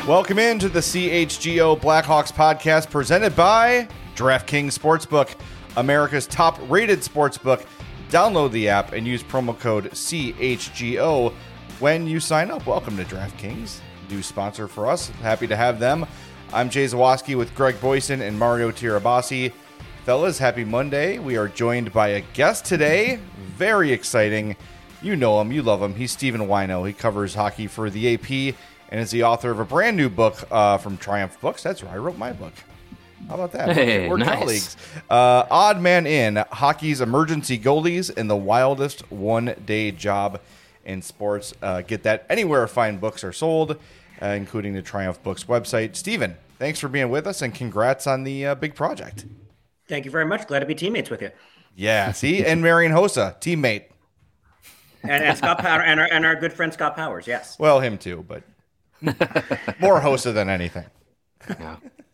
Welcome into the CHGO Blackhawks podcast presented by DraftKings Sportsbook, America's top-rated sportsbook. Download the app and use promo code CHGO when you sign up. Welcome to DraftKings, new sponsor for us. Happy to have them. I'm Jay Zawaski with Greg Boyson and Mario Tirabassi. Fellas, happy Monday. We are joined by a guest today. Very exciting. You know him, you love him. He's Stephen Wino. He covers hockey for the AP and is the author of a brand new book from Triumph Books. That's where I wrote my book. How about that? Hey, we're nice. Colleagues. Odd Man In, hockey's emergency goalies and the wildest one-day job in sports. Get that anywhere fine books are sold, including the Triumph Books website. Stephen, thanks for being with us, and congrats on the big project. Thank you very much. Glad to be teammates with you. Yeah, see? And Marian Hossa, teammate. And Scott Power and our good friend Scott Powers, yes. Well, him too, but more Hossa than anything. Yeah.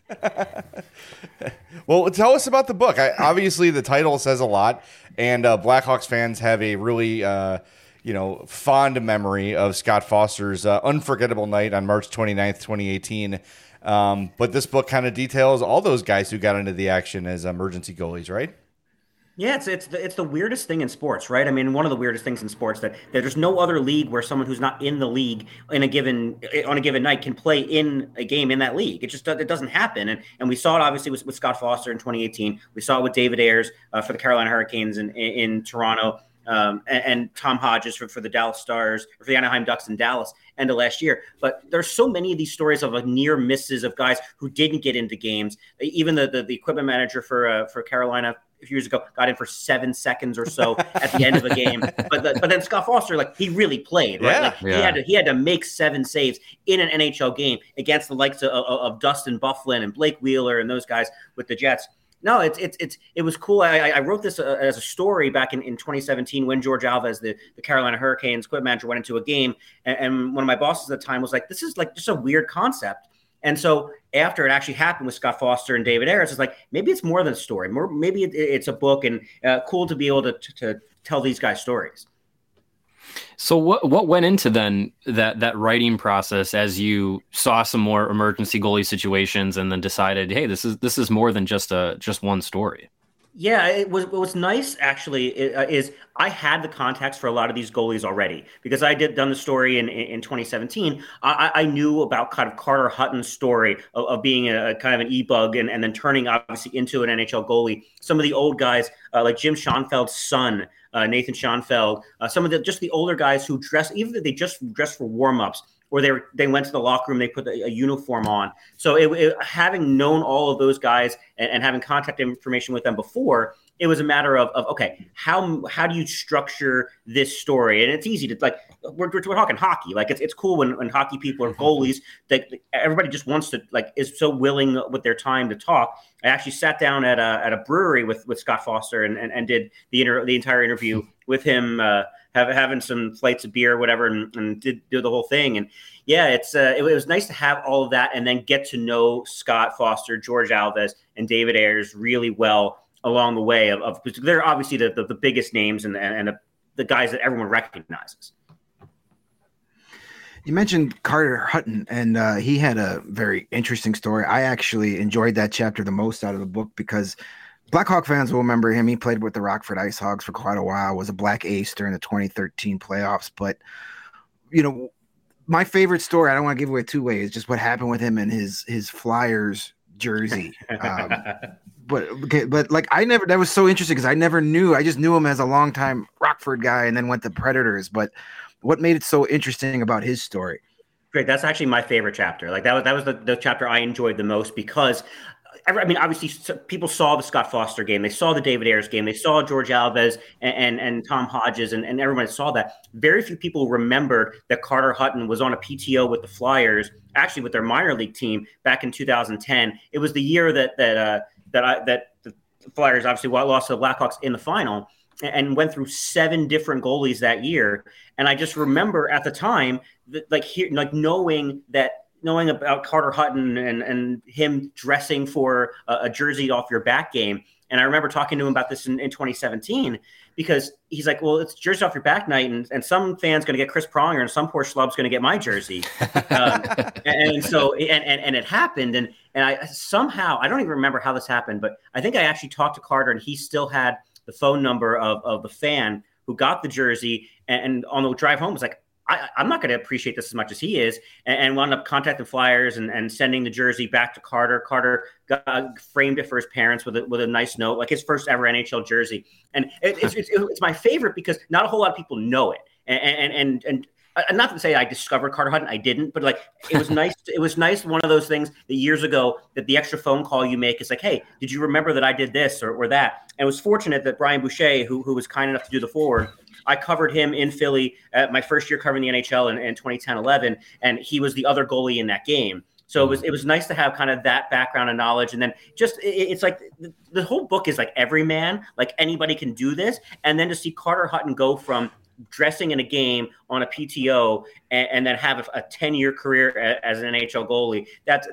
Well, tell us about the book. Obviously, the title says a lot, and Blackhawks fans have a really, fond memory of Scott Foster's unforgettable night on March 29th, 2018. But this book kind of details all those guys who got into the action as emergency goalies, right? Yeah, it's the weirdest thing in sports, right? I mean, one of the weirdest things in sports that there's no other league where someone who's not in the league on a given night can play in a game in that league. It doesn't happen, and we saw it obviously with Scott Foster in 2018. We saw it with David Ayres for the Carolina Hurricanes in Toronto, and Tom Hodges for the Dallas Stars, or for the Anaheim Ducks in Dallas end of last year. But there's so many of these stories of near misses of guys who didn't get into games. Even the equipment manager for Carolina a few years ago got in for 7 seconds or so at the end of a game. But then Scott Foster, he really played, right? He had to make 7 saves in an NHL game against the likes of Dustin Byfuglien and Blake Wheeler and those guys with the Jets. No, it was cool. I wrote this as a story back in 2017 when George Alves, the Carolina Hurricanes equipment manager, went into a game, and one of my bosses at the time was like, "This is just a weird concept." And so after it actually happened with Scott Foster and David Ayres, it's like, maybe it's more than a story. Maybe it's a book, and cool to be able to tell these guys stories. So what went into then that writing process as you saw some more emergency goalie situations and then decided, hey, this is more than just one story? Yeah, what was nice actually is I had the context for a lot of these goalies already because I done the story in 2017. I knew about kind of Carter Hutton's story of being a kind of an e-bug and then turning obviously into an NHL goalie. Some of the old guys like Jim Schoenfeld's son, Nathan Schoenfeld, some of the older guys who either they just dressed for warm-ups or they went to the locker room, they put a uniform on. So having known all of those guys and having contact information with them before, it was a matter of okay, how do you structure this story? And it's easy to we're talking hockey. It's cool when hockey people are goalies that everybody just wants to is so willing with their time to talk. I actually sat down at a brewery with Scott Foster and did the entire interview with him, having some flights of beer or whatever, and did do the whole thing. And yeah, it was nice to have all of that and then get to know Scott Foster, George Alves, and David Ayres really well along the way because they're obviously the biggest names and the guys that everyone recognizes. You mentioned Carter Hutton, and he had a very interesting story. I actually enjoyed that chapter the most out of the book because Blackhawk fans will remember him. He played with the Rockford Ice Hogs for quite a while, was a Black Ace during the 2013 playoffs. But, my favorite story, I don't want to give away two ways, just what happened with him and his Flyers jersey. But that was so interesting because I never knew. I just knew him as a longtime Rockford guy and then went to Predators. But what made it so interesting about his story? Great. That's actually my favorite chapter. That was the chapter I enjoyed the most because obviously people saw the Scott Foster game. They saw the David Ayres game. They saw George Alves and Tom Hodges and everyone saw that. Very few people remember that Carter Hutton was on a PTO with the Flyers, actually with their minor league team back in 2010. It was the year that the Flyers obviously lost to the Blackhawks in the final and went through 7 different goalies that year. And I just remember at the time knowing about Carter Hutton and him dressing for a jersey off your back game. And I remember talking to him about this in 2017, because he's like, well, it's jersey off your back night, and some fan's going to get Chris Pronger, and some poor schlub's going to get my jersey. And so it happened, and I somehow, I don't even remember how this happened, but I think I actually talked to Carter, and he still had the phone number of the fan who got the jersey, and on the drive home was like, I'm not going to appreciate this as much as he is, and wound up contacting Flyers and sending the jersey back to Carter. Carter framed it for his parents with a nice note, like his first ever NHL jersey. And it's my favorite because not a whole lot of people know it. And not to say I discovered Carter Hutton, I didn't, but like it was nice. It was nice. One of those things that years ago that the extra phone call you make is like, hey, did you remember that I did this or that? And it was fortunate that Brian Boucher, who was kind enough to do the forward, I covered him in Philly my first year covering the NHL in 2010-11, and he was the other goalie in that game. So it was nice to have kind of that background and knowledge. And then just it's like the whole book is like everyman, like anybody can do this. And then to see Carter Hutton go from dressing in a game on a PTO and then have a 10-year career as an NHL goalie. That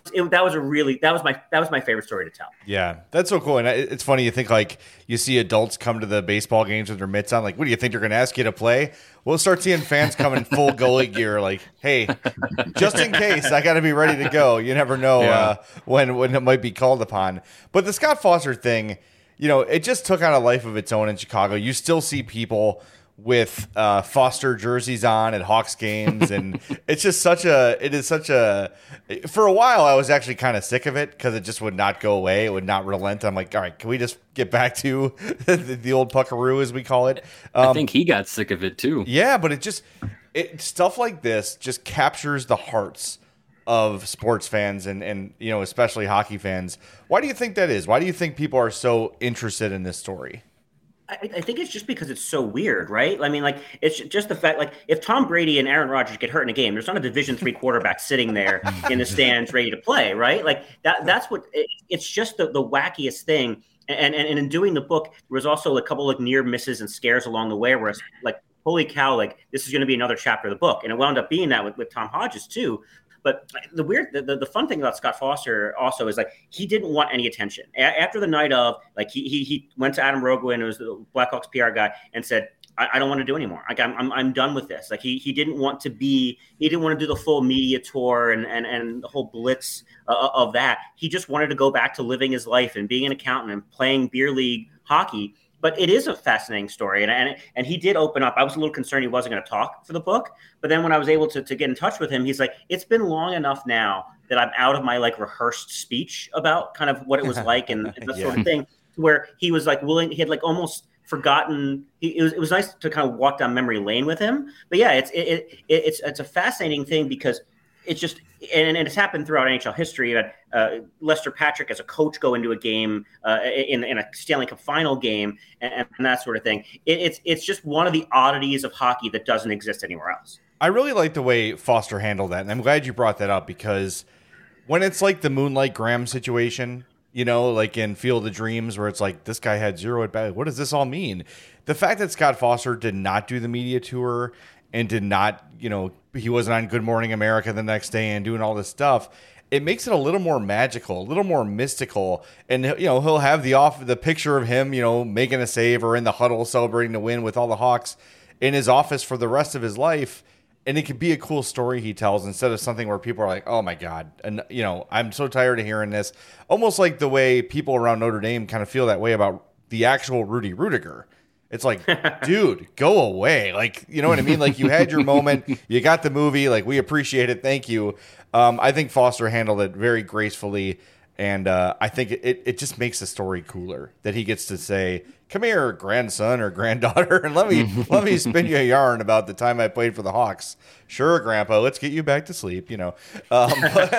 was my favorite story to tell. Yeah, that's so cool. And it's funny, you think like you see adults come to the baseball games with their mitts on, like, what do you think they're going to ask you to play? We'll start seeing fans come in full goalie gear, like, hey, just in case, I got to be ready to go. You never know when it might be called upon. But the Scott Foster thing, it just took on a life of its own in Chicago. You still see people with Foster jerseys on at Hawks games, and it is such a for a while I was actually kind of sick of it because it just would not go away. It would not relent. I'm like, all right, can we just get back to the old puckaroo, as we call it? I think he got sick of it too. Yeah, but stuff like this just captures the hearts of sports fans and especially hockey fans. Why do you think that is? Why do you think people are so interested in this story? I think it's just because it's so weird, right? I mean, like, it's just the fact, like, if Tom Brady and Aaron Rodgers get hurt in a game, there's not a Division III quarterback sitting there in the stands ready to play, right? Like, that's what it's just the wackiest thing. And in doing the book, there was also a couple of near misses and scares along the way where it's like, holy cow, like, this is going to be another chapter of the book. And it wound up being that with Tom Hodges, too. But the fun thing about Scott Foster also is like he didn't want any attention after the night of, like he went to Adam Rogowin, who was the Blackhawks PR guy, and said, I don't want to do anymore. Like I'm done with this. Like he didn't want to do the full media tour and the whole blitz of that. He just wanted to go back to living his life and being an accountant and playing beer league hockey. But it is a fascinating story, and he did open up. I was a little concerned he wasn't going to talk for the book, but then when I was able to get in touch with him, he's like, it's been long enough now that I'm out of my like rehearsed speech about kind of what it was like and that sort of thing, where he was like willing. He had like almost forgotten. It was nice to kind of walk down memory lane with him. But yeah, it's a fascinating thing because it's just and it's happened throughout NHL history. You had Lester Patrick as a coach go into a game in a Stanley Cup final game and that sort of thing. It's just one of the oddities of hockey that doesn't exist anywhere else. I really like the way Foster handled that, and I'm glad you brought that up because when it's like the Moonlight Graham situation, like in Field of Dreams where it's like this guy had 0 at bat. What does this all mean? The fact that Scott Foster did not do the media tour and did not, he wasn't on Good Morning America the next day and doing all this stuff, it makes it a little more magical, a little more mystical. And, he'll have the picture of him, making a save or in the huddle celebrating the win with all the Hawks in his office for the rest of his life. And it could be a cool story he tells instead of something where people are like, oh my God. And, I'm so tired of hearing this. Almost like the way people around Notre Dame kind of feel that way about the actual Rudy Rudiger. It's like, dude, go away. Like, you know what I mean? Like you had your moment, you got the movie, like we appreciate it. Thank you. I think Foster handled it very gracefully. And I think it just makes the story cooler that he gets to say, come here, grandson or granddaughter, and let me spin you a yarn about the time I played for the Hawks. Sure, Grandpa, let's get you back to sleep, But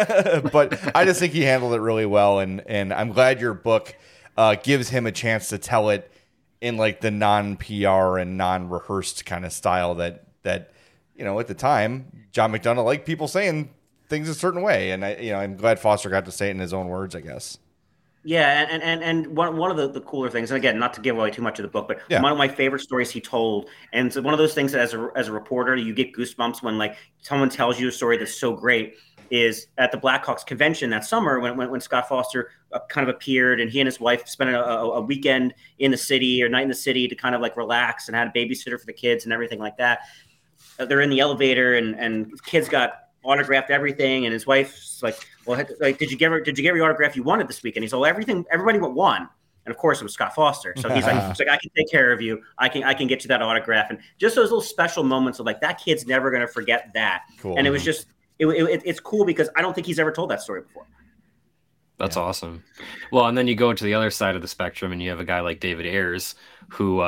I just think he handled it really well. And I'm glad your book gives him a chance to tell it in like the non-PR and non-rehearsed kind of style that at the time, John McDonough liked people saying things a certain way. And I'm glad Foster got to say it in his own words, I guess. Yeah. And one of the cooler things, and again, not to give away too much of the book, but one of my favorite stories he told. And it's one of those things that as a reporter, you get goosebumps when like someone tells you a story that's so great. is at the Blackhawks convention that summer when Scott Foster kind of appeared, and he and his wife spent a weekend in the city or night in the city to kind of like relax and had a babysitter for the kids and everything like that. They're in the elevator and kids got autographed everything, and his wife's like, well, like, did you get your autograph you wanted this weekend? He's like, everybody but one. And of course it was Scott Foster. So he's like, I can take care of you. I can get you that autograph. And just those little special moments of like, that kid's never going to forget that. Cool. And it was just, it's cool because I don't think he's ever told that story before. That's awesome. Well, and then you go to the other side of the spectrum and you have a guy like David Ayers, who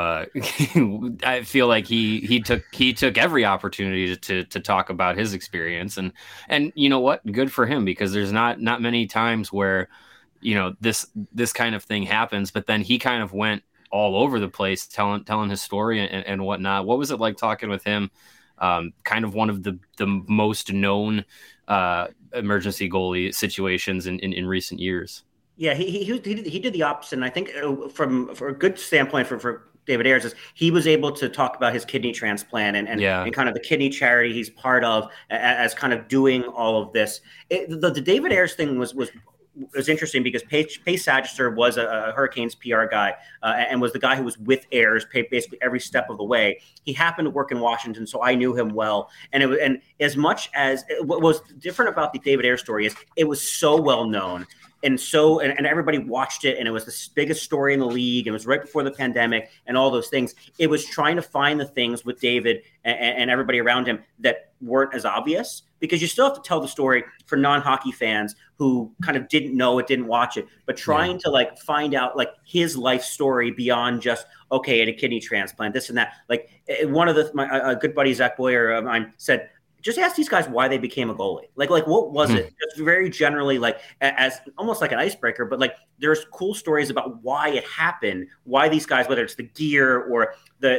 I feel like he took every opportunity to talk about his experience, and you know what, good for him, because there's not many times where, you know, this kind of thing happens, but then he kind of went all over the place telling his story and whatnot. What was it like talking with him? Kind of one of the most known emergency goalie situations in recent years. Yeah, he did the opposite. And I think for a good standpoint for David Ayers is he was able to talk about his kidney transplant and kind of the kidney charity he's part of as kind of doing all of this. The David Ayers thing was interesting because Pace Sagister was a Hurricanes PR guy and was the guy who was with Ayers basically every step of the way. He happened to work in Washington, so I knew him well. And as much as what was different about the David Ayers story is it was so well known. And everybody watched it, and it was the biggest story in the league. It was right before the pandemic and all those things. It was trying to find the things with David and everybody around him that weren't as obvious, because you still have to tell the story for non-hockey fans who kind of didn't know it, didn't watch it, but trying to like find out like his life story beyond just, okay, had a kidney transplant, this and that. Like one of my good buddy, Zach Boyer of mine, said, just ask these guys why they became a goalie. Like what was it? Just very generally, like as almost like an icebreaker, but like there's cool stories about why it happened, why these guys, whether it's the gear or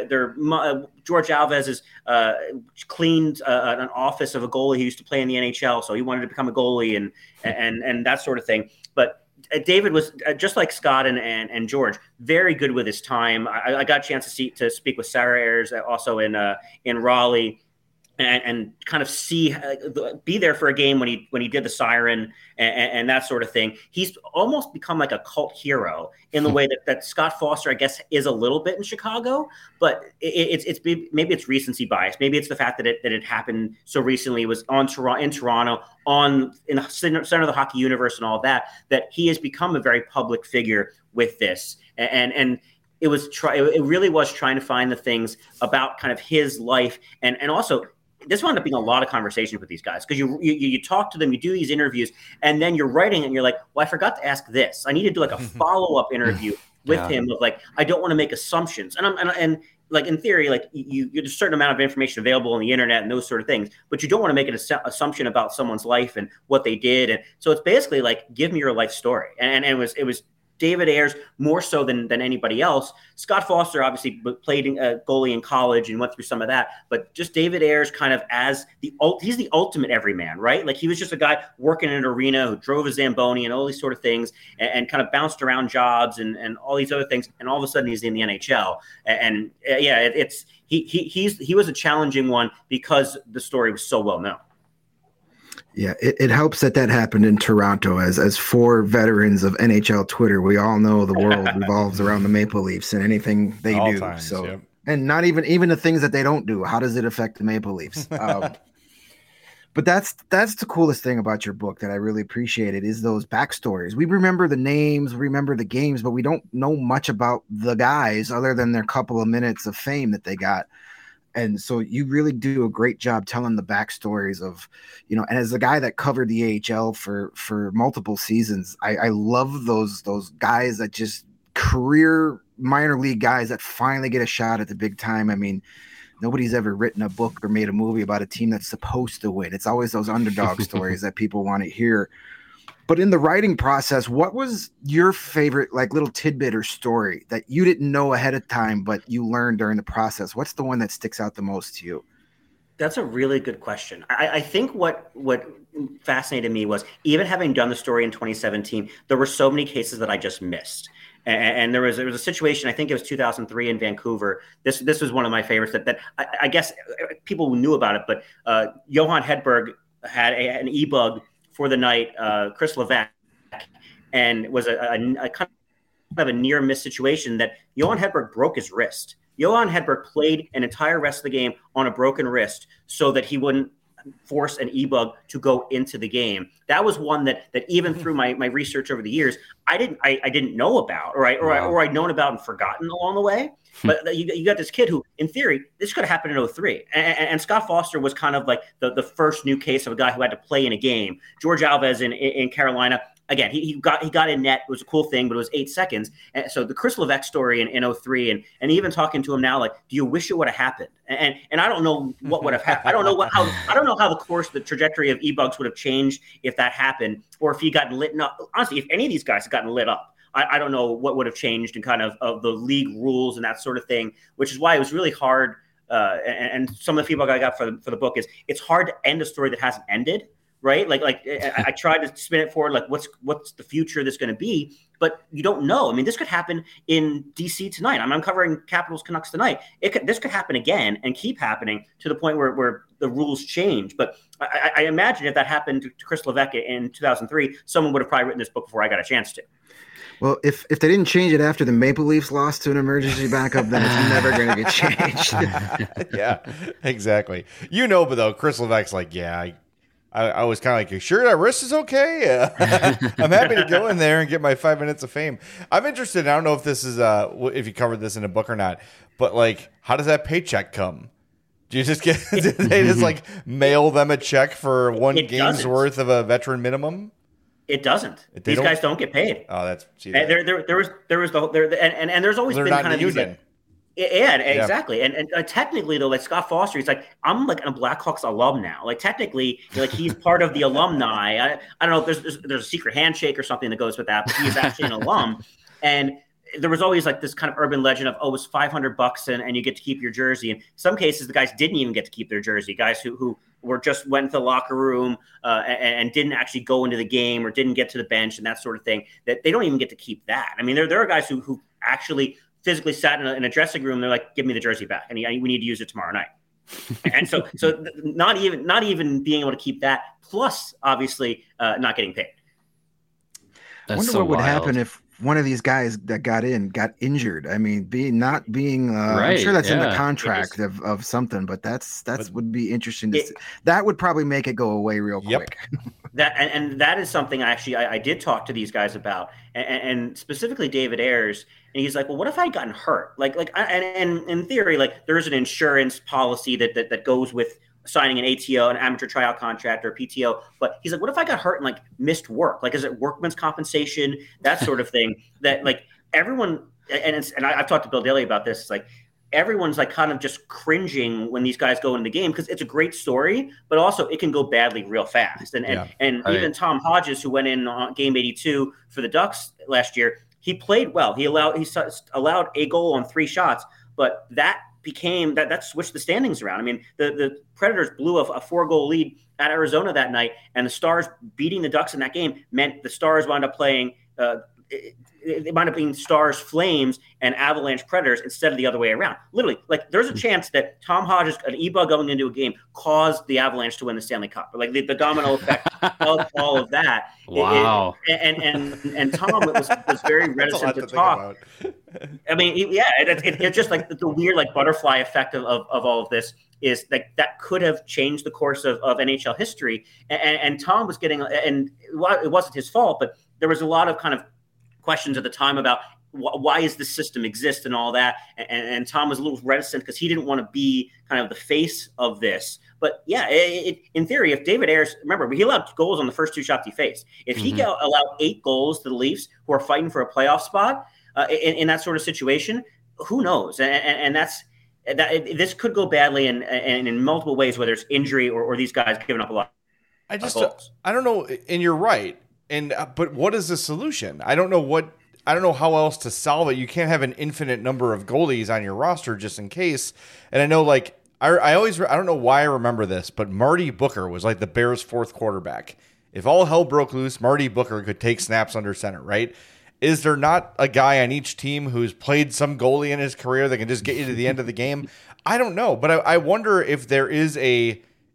George Alves is cleaned an office of a goalie who used to play in the NHL, so he wanted to become a goalie and that sort of thing. But David was just like Scott and George, very good with his time. I got a chance to speak with Sarah Ayers also in Raleigh. And kind of be there for a game when he did the siren and that sort of thing. He's almost become like a cult hero in the way that Scott Foster, I guess, is a little bit in Chicago. But maybe it's recency bias. Maybe it's the fact that it happened so recently. It was in Toronto, in the center of the hockey universe and all that he has become a very public figure with this. And it really was trying to find the things about kind of his life and also. This wound up being a lot of conversations with these guys because you talk to them, you do these interviews, and then you're writing and you're like, well, I forgot to ask this. I need to do like a follow-up interview with him of like, I don't want to make assumptions. And like in theory, like there's a certain amount of information available on the internet and those sort of things, but you don't want to make an assumption about someone's life and what they did. And so it's basically like, give me your life story. And it was David Ayers more so than anybody else. Scott Foster obviously played goalie in college and went through some of that, but just David Ayers kind of as he's the ultimate everyman, right? Like he was just a guy working in an arena who drove a Zamboni and all these sort of things and kind of bounced around jobs and all these other things. And all of a sudden he's in the NHL. He was a challenging one because the story was so well known. Yeah, it helps that happened in Toronto. As four veterans of NHL Twitter, we all know the world revolves around the Maple Leafs and anything they do. Times, so, yep. And not even the things that they don't do. How does it affect the Maple Leafs? But that's the coolest thing about your book that I really appreciated is those backstories. We remember the names, we remember the games, but we don't know much about the guys other than their couple of minutes of fame that they got. And so you really do a great job telling the backstories of, you know, and as the guy that covered the AHL for multiple seasons, I love those guys that just career minor league guys that finally get a shot at the big time. I mean, nobody's ever written a book or made a movie about a team that's supposed to win. It's always those underdog stories that people want to hear. But in the writing process, what was your favorite like little tidbit or story that you didn't know ahead of time, but you learned during the process? What's the one that sticks out the most to you? That's a really good question. I think what fascinated me was even having done the story in 2017, there were so many cases that I just missed. And there was a situation, I think it was 2003 in Vancouver. This was one of my favorites that I guess people knew about it, but Johan Hedberg had an e-bug for the night, Chris Levesque, and was a kind of a near miss situation that Johan Hedberg broke his wrist. Johan Hedberg played an entire rest of the game on a broken wrist so that he wouldn't force an e-bug to go into the game. That was one that even through my research over the years, I didn't know about, or I'd known about and forgotten along the way. But you got this kid who, in theory, this could have happened in 03. And Scott Foster was kind of like the first new case of a guy who had to play in a game. George Alves in Carolina, again, he got in net. It was a cool thing, but it was 8 seconds. And so the Chris Levesque story in 03, and even talking to him now, like, do you wish it would have happened? And I don't know what would have happened. I don't know how the trajectory of e-bugs would have changed if that happened, or if he got lit up. Honestly, if any of these guys had gotten lit up, I don't know what would have changed in kind of the league rules and that sort of thing, which is why it was really hard. And some of the feedback I got for the book is it's hard to end a story that hasn't ended, right? Like I tried to spin it forward, like what's the future of this going to be, but you don't know. I mean, this could happen in DC tonight. I'm covering Capitals Canucks tonight. This could happen again and keep happening to the point where the rules change. But I imagine if that happened to Chris Levesque in 2003, someone would have probably written this book before I got a chance to. Well, if they didn't change it after the Maple Leafs lost to an emergency backup, then it's never going to get changed. Yeah, exactly. But though, Chris Levesque's like, yeah, I was kind of like, you sure that wrist is okay? I'm happy to go in there and get my 5 minutes of fame. I'm interested. I don't know if this is if you covered this in a book or not, but like, how does that paycheck come? Do you just get? Did they just like mail them a check for one game's worth of a veteran minimum? It doesn't. These guys don't get paid. Oh, that's there was and there's always been kind of these like, yeah, exactly. And technically though, like Scott Foster, he's like, I'm like a Blackhawks alum now. Like technically, like he's part of the alumni. I don't know if there's a secret handshake or something that goes with that, but he is actually an alum. And there was always like this kind of urban legend of, oh, it's $500 and you get to keep your jersey. In some cases, the guys didn't even get to keep their jersey. Guys who were just went to the locker room and didn't actually go into the game or didn't get to the bench and that sort of thing, that they don't even get to keep that. I mean, there are guys who actually physically sat in a dressing room. They're like, give me the jersey back. And we need to use it tomorrow night. And so not even being able to keep that, plus obviously not getting paid. I wonder what would happen if one of these guys that got injured. I mean, not being I'm sure that's in the contract of something, but that's would be interesting to see. That would probably make it go away real quick. That is something I did talk to these guys about, and specifically David Ayers, and he's like, well, what if I had gotten hurt? And in theory, like there is an insurance policy that goes with signing an ATO, an amateur tryout contract, or a PTO. But he's like, what if I got hurt and like missed work? Like, is it workman's compensation? That sort of thing that like everyone, and I've talked to Bill Daly about this. It's like, everyone's like kind of just cringing when these guys go into the game because it's a great story, but also it can go badly real fast. And even Tom Hodges, who went in on game 82 for the Ducks last year, he played well. He allowed a goal on 3 shots, but that became that switched the standings around. I mean, the Predators blew a 4-goal lead at Arizona that night, and the Stars beating the Ducks in that game meant the Stars wound up playing it might have been Stars Flames and Avalanche Predators instead of the other way around. Literally, like there's a chance that Tom Hodges, an e-bug going into a game, caused the Avalanche to win the Stanley Cup. Like the domino effect of all of that. Wow. And Tom was very reticent to talk. I mean, it's just like the weird like butterfly effect of all of this is like that could have changed the course of NHL history. And Tom was getting, and it wasn't his fault, but there was a lot of kind of questions at the time about why does this system exist and all that. And Tom was a little reticent because he didn't want to be kind of the face of this. But yeah, in theory, if David Ayers, remember, he allowed goals on the first 2 shots he faced. If he allowed 8 goals to the Leafs, who are fighting for a playoff spot in that sort of situation, who knows? And this could go badly and in multiple ways, whether it's injury or these guys giving up a lot. I don't know. And you're right. But what is the solution? I don't know how else to solve it. You can't have an infinite number of goalies on your roster just in case. And I know, like, I don't know why I remember this, but Marty Booker was like the Bears' 4th quarterback. If all hell broke loose, Marty Booker could take snaps under center, right? Is there not a guy on each team who's played some goalie in his career that can just get you to the end of the game? I don't know, but I wonder if there is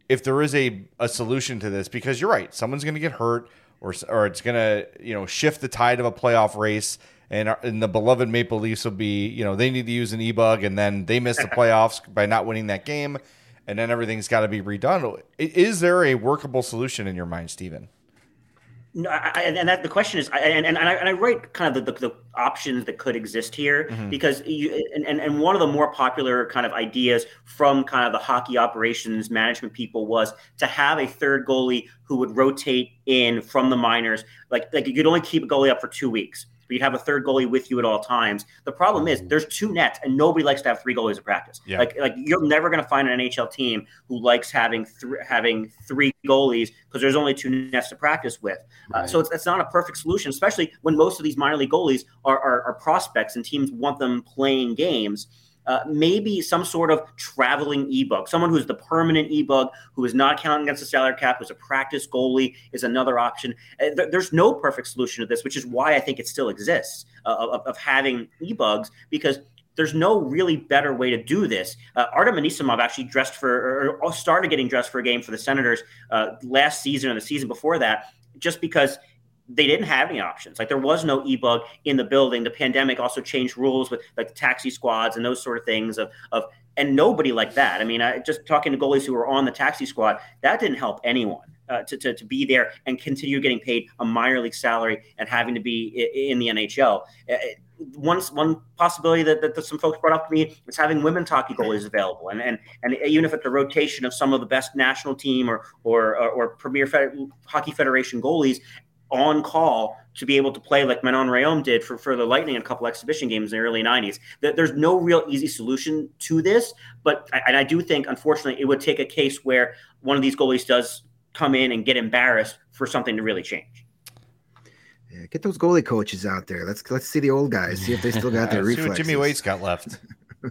if there is a solution to this, because you're right, someone's going to get hurt, or it's going to shift the tide of a playoff race, and the beloved Maple Leafs will be they need to use an e-bug, and then they miss the playoffs by not winning that game, and then everything's got to be redone. Is there a workable solution in your mind, Steven? No, and that the question is, I write kind of the options that could exist here, because and one of the more popular kind of ideas from kind of the hockey operations management people was to have a third goalie who would rotate in from the minors, like you could only keep a goalie up for 2 weeks. But you'd have a third goalie with you at all times. The problem is there's 2 nets, and nobody likes to have 3 goalies in practice. Yeah. Like you're never going to find an NHL team who likes having 3 goalies, because there's only 2 nets to practice with. Right. So it's not a perfect solution, especially when most of these minor league goalies are prospects and teams want them playing games. Maybe some sort of traveling e-bug, someone who's the permanent e-bug, who is not counting against the salary cap, who's a practice goalie, is another option. There's no perfect solution to this, which is why I think it still exists, of having e-bugs, because there's no really better way to do this. Artem Anisimov actually started getting dressed for a game for the Senators last season and the season before that, just because they didn't have any options. Like, there was no e-bug in the building. The pandemic also changed rules with like the taxi squads and those sort of things and nobody liked that. I mean, just talking to goalies who were on the taxi squad, that didn't help anyone to be there and continue getting paid a minor league salary and having to be in the NHL. One possibility that some folks brought up to me is having women's hockey goalies available, and even if it's the rotation of some of the best national team or Premier Hockey Federation goalies on call to be able to play like Manon Rhéaume did for the Lightning in a couple exhibition games in the early 90s. There's no real easy solution to this, but I do think, unfortunately, it would take a case where one of these goalies does come in and get embarrassed for something to really change. Yeah, get those goalie coaches out there. Let's see the old guys, see if they still got their reflexes. See what Jimmy Waite's got left.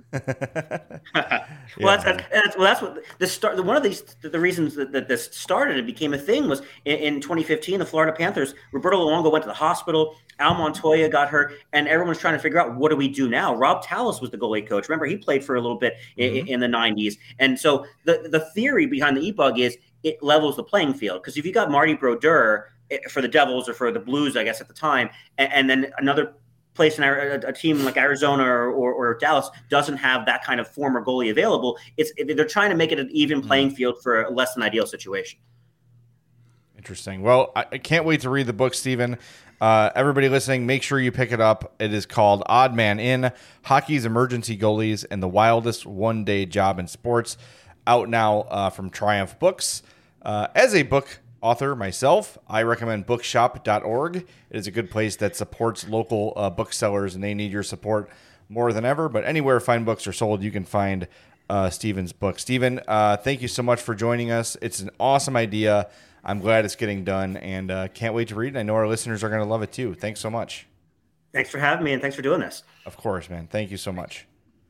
That's what this start. One of the reasons that this started and became a thing was in 2015, the Florida Panthers. Roberto Luongo went to the hospital. Al Montoya got hurt, and everyone's trying to figure out, what do we do now? Rob Tallis was the goalie coach. Remember, he played for a little bit in the 90s, and so the theory behind the e-bug is it levels the playing field, because if you got Marty Brodeur for the Devils or for the Blues, I guess at the time, and then another place in a team like Arizona or Dallas doesn't have that kind of former goalie available, they're trying to make it an even playing field for a less than ideal situation. Interesting. Well, I can't wait to read the book, Steven. Everybody listening, make sure you pick it up. It is called Odd Man In: Hockey's Emergency Goalies and the Wildest One-Day Job in Sports, out now from Triumph Books. As a book author myself, I recommend bookshop.org. It is a good place that supports local booksellers, and they need your support more than ever. But anywhere fine books are sold, you can find Steven's book. Steven, thank you so much for joining us. It's an awesome idea. I'm glad it's getting done, and can't wait to read it. I know our listeners are going to love it too. Thanks so much. Thanks for having me, and thanks for doing this. Of course, man. Thank you so much.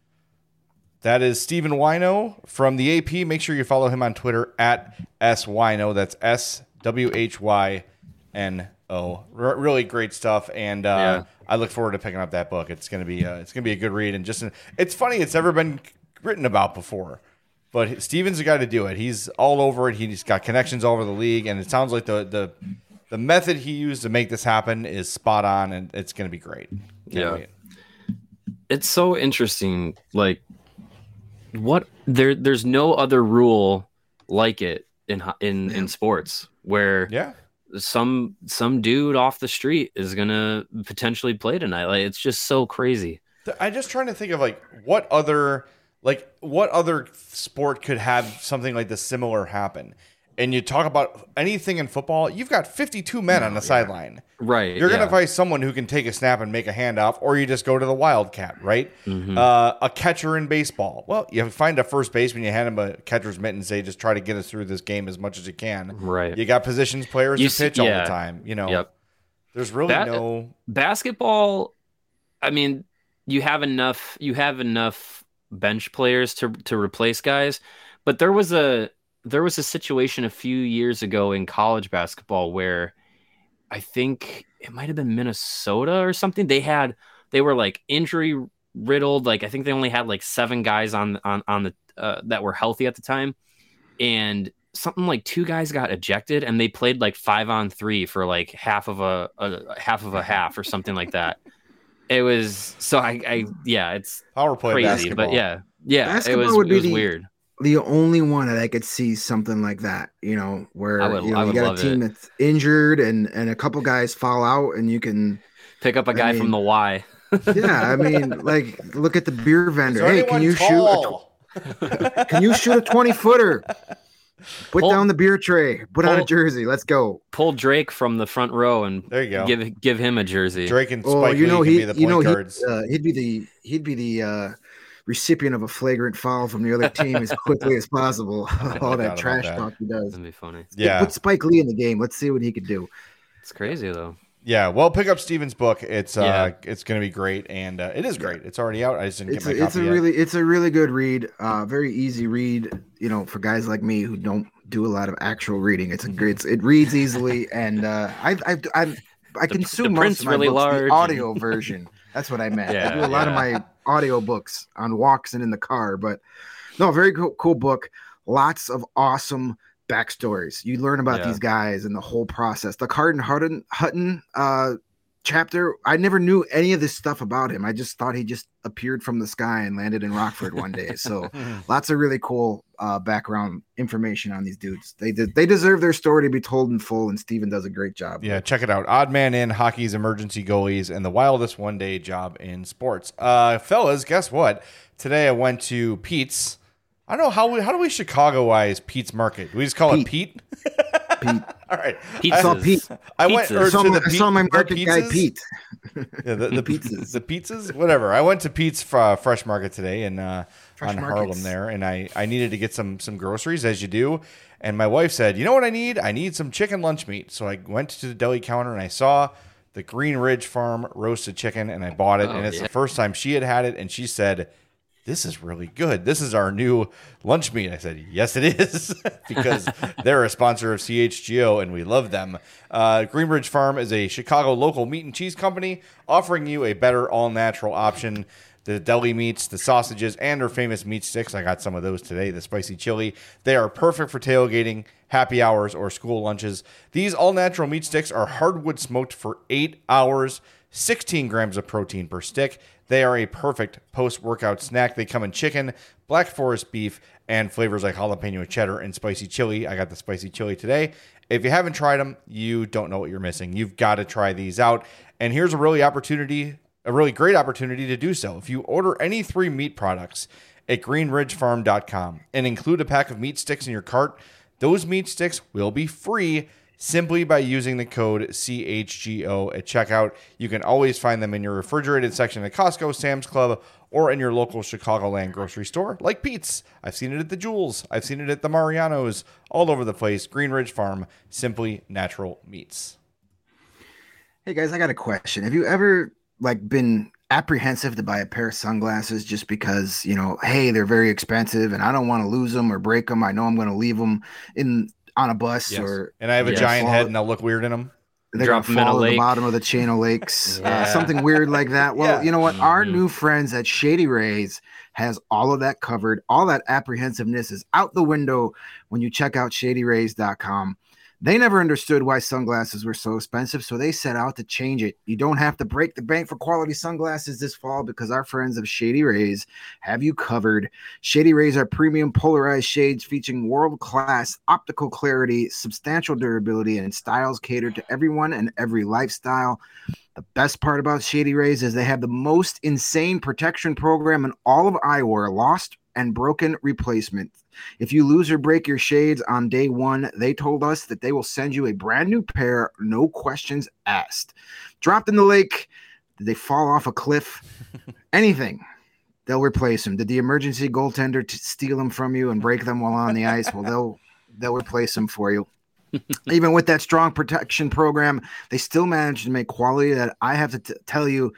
That is Steven Whyno from the AP. Make sure you follow him on Twitter at SWhyno. That's SWHYNO. Really great stuff, and I look forward to picking up that book. It's gonna be a good read, and it's funny. It's never been written about before, but Steven's the guy to do it. He's all over it. He's got connections all over the league, and it sounds like the method he used to make this happen is spot on, and it's gonna be great. Can't wait. It's so interesting. Like, there's no other rule like it in sports, where some dude off the street is gonna potentially play tonight. Like, it's just so crazy. I'm just trying to think of what other sport could have something like this similar happen. And you talk about anything in football, you've got 52 men on the sideline. Right. You're going to find someone who can take a snap and make a handoff, or you just go to the wildcat, right? Mm-hmm. A catcher in baseball. Well, you find a first baseman, you hand him a catcher's mitt and say, just try to get us through this game as much as you can. Right. You got positions players who pitch all the time. There's really no basketball. I mean, you have enough bench players to replace guys, but there was a situation a few years ago in college basketball where I think it might have been Minnesota or something. They were like injury riddled. Like, I think they only had like 7 guys on the that were healthy at the time. And something like 2 guys got ejected and they played like 5-on-3 for like half of a half or something like that. It was so it's power play crazy, basketball. but yeah, basketball it would was be weird. The only one that I could see something like that, where I would you got love a team that's injured and a couple guys fall out and you can pick up a guy from the Y. Yeah, I mean, like, look at the beer vendor. Hey, can you tall? can you shoot a 20-footer? Put down the beer tray. Put on a jersey. Let's go. Pull Drake from the front row and there you go. Give him a jersey. Drake and Spike Lee can be the point guards. He'd be the recipient of a flagrant foul from the other team as quickly as possible. All that trash talk he does. That'd be funny. Yeah, put Spike Lee in the game. Let's see what he could do. It's crazy though. Yeah, well, pick up Steven's book. It's going to be great, and it is great. It's already out. I just didn't get my copy yet. It's a really good read. Very easy read. For guys like me who don't do a lot of actual reading. It reads easily, and I consume most of my books the audio version. That's what I meant. I do a lot of my audio books on walks and in the car. But no, very cool book. Lots of awesome backstories. You learn about these guys and the whole process. The Carden Hutton chapter, I never knew any of this stuff about him. I just thought he just appeared from the sky and landed in Rockford one day. So lots of really cool background information on these dudes. They deserve their story to be told in full, and Steven does a great job. Yeah, check it out. Odd Man In, Hockey's Emergency Goalies, and the Wildest One-Day Job in Sports. Fellas, guess what? Today I went to Pete's. I don't know how do we Chicago-wise Pete's Market? Do we just call it Pete? Pete. All right. I saw Pete. I saw my market guy Pete. Yeah, the pizzas. The pizzas? Whatever. I went to Pete's Fresh Market today on Harlem there, and I needed to get some groceries, as you do. And my wife said, you know what I need? I need some chicken lunch meat. So I went to the deli counter, and I saw the Green Ridge Farm roasted chicken, and I bought it. And it's the first time she had it, and she said, this is really good. This is our new lunch meat. I said, yes, it is, because they're a sponsor of CHGO, and we love them. Greenridge Farm is a Chicago local meat and cheese company offering you a better all-natural option. The deli meats, the sausages, and our famous meat sticks. I got some of those today, the spicy chili. They are perfect for tailgating, happy hours, or school lunches. These all-natural meat sticks are hardwood smoked for 8 hours, 16 grams of protein per stick. They are a perfect post-workout snack. They come in chicken, black forest beef, and flavors like jalapeno cheddar and spicy chili. I got the spicy chili today. If you haven't tried them, you don't know what you're missing. You've got to try these out. And here's a really great opportunity to do so. If you order any 3 meat products at greenridgefarm.com and include a pack of meat sticks in your cart, those meat sticks will be free simply by using the code CHGO at checkout. You can always find them in your refrigerated section at Costco, Sam's Club, or in your local Chicagoland grocery store, like Pete's. I've seen it at the Jewels. I've seen it at the Mariano's, all over the place. Greenridge Farm, simply natural meats. Hey guys, I got a question. Have you ever been apprehensive to buy a pair of sunglasses just because, hey, they're very expensive and I don't want to lose them or break them. I know I'm going to leave them on a bus, and I have a giant head and I'll look weird in them. They're going to fall to the bottom of the chain of lakes, something weird like that. Well, you know what? Our new friends at Shady Rays has all of that covered. All that apprehensiveness is out the window when you check out shadyrays.com. They never understood why sunglasses were so expensive, so they set out to change it. You don't have to break the bank for quality sunglasses this fall because our friends of Shady Rays have you covered. Shady Rays are premium polarized shades featuring world-class optical clarity, substantial durability, and styles catered to everyone and every lifestyle. The best part about Shady Rays is they have the most insane protection program in all of eyewear, lost and broken replacement. If you lose or break your shades on day one, they told us that they will send you a brand new pair, no questions asked. Dropped in the lake, did they fall off a cliff? Anything, they'll replace them. Did the emergency goaltender steal them from you and break them while on the ice? Well, they'll replace them for you. Even with that strong protection program, they still manage to make quality that I have to tell you,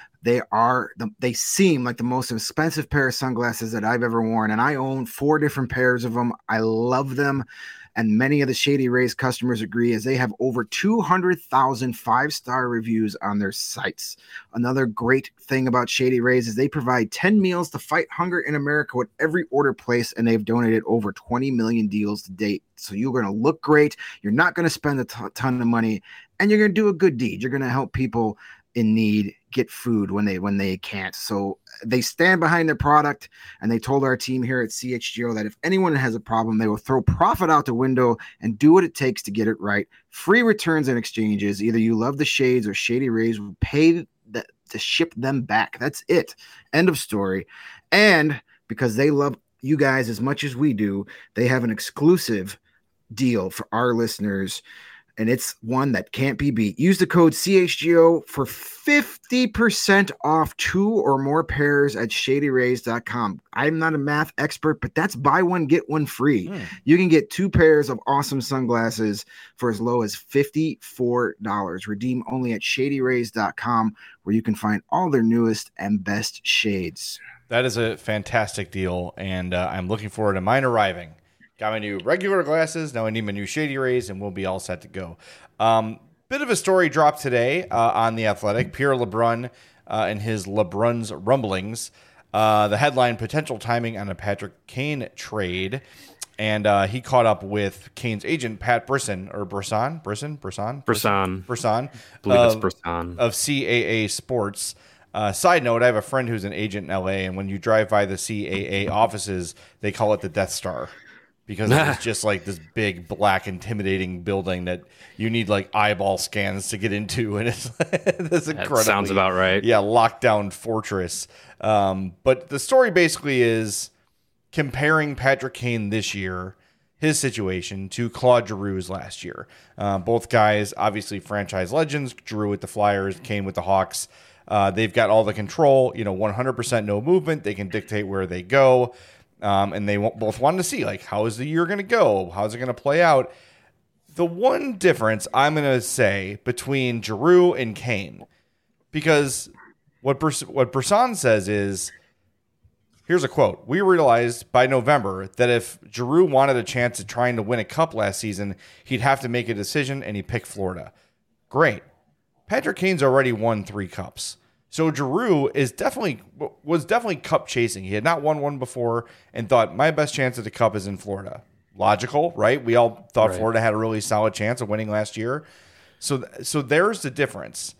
they seem like the most expensive pair of sunglasses that I've ever worn. And I own 4 different pairs of them. I love them. And many of the Shady Rays customers agree, as they have over 200,000 5-star reviews on their sites. Another great thing about Shady Rays is they provide 10 meals to fight hunger in America with every order placed, and they've donated over 20 million deals to date. So you're going to look great. You're not going to spend a ton of money, and you're going to do a good deed. You're going to help people in need get food when they can't. So they stand behind their product, and they told our team here at CHGO that if anyone has a problem, they will throw profit out the window and do what it takes to get it right. Free returns and exchanges. Either you love the Shades or Shady Rays will pay to ship them back. That's it. End of story. And because they love you guys as much as we do, they have an exclusive deal for our listeners, and it's one that can't be beat. Use the code CHGO for 50% off 2 or more pairs at shadyrays.com. I'm not a math expert, but that's buy one, get one free. You can get 2 pairs of awesome sunglasses for as low as $54. Redeem only at shadyrays.com, where you can find all their newest and best shades. That is a fantastic deal, and I'm looking forward to mine arriving. Got my new regular glasses. Now I need my new Shady Rays, and we'll be all set to go. Bit of a story dropped today on The Athletic. Pierre LeBrun and his LeBrun's Rumblings. The headline, potential timing on a Patrick Kane trade. And he caught up with Kane's agent, Pat Brisson. I believe it's Brisson. Of CAA Sports. Side note, I have a friend who's an agent in LA, and when you drive by the CAA offices, they call it the Death Star. Because it's just like this big, black, intimidating building that you need like eyeball scans to get into, and it's this incredible. Sounds about right. Yeah, lockdown fortress. But the story basically is comparing Patrick Kane this year, his situation, to Claude Giroux's last year. Both guys, obviously franchise legends. Giroux with the Flyers, Kane with the Hawks. They've got all the control. 100% no movement. They can dictate where they go. And they both wanted to see, like, how is the year going to go? How's it going to play out? The one difference I'm going to say between Giroux and Kane, because what Brisson says is, here's a quote: "We realized by November that if Giroux wanted a chance at trying to win a cup last season, he'd have to make a decision, and he picked Florida." Great. Patrick Kane's already won 3 cups. So Giroux was definitely cup chasing. He had not won one before and thought, my best chance at the cup is in Florida. Logical, right? We all thought Florida had a really solid chance of winning last year. So there's the difference.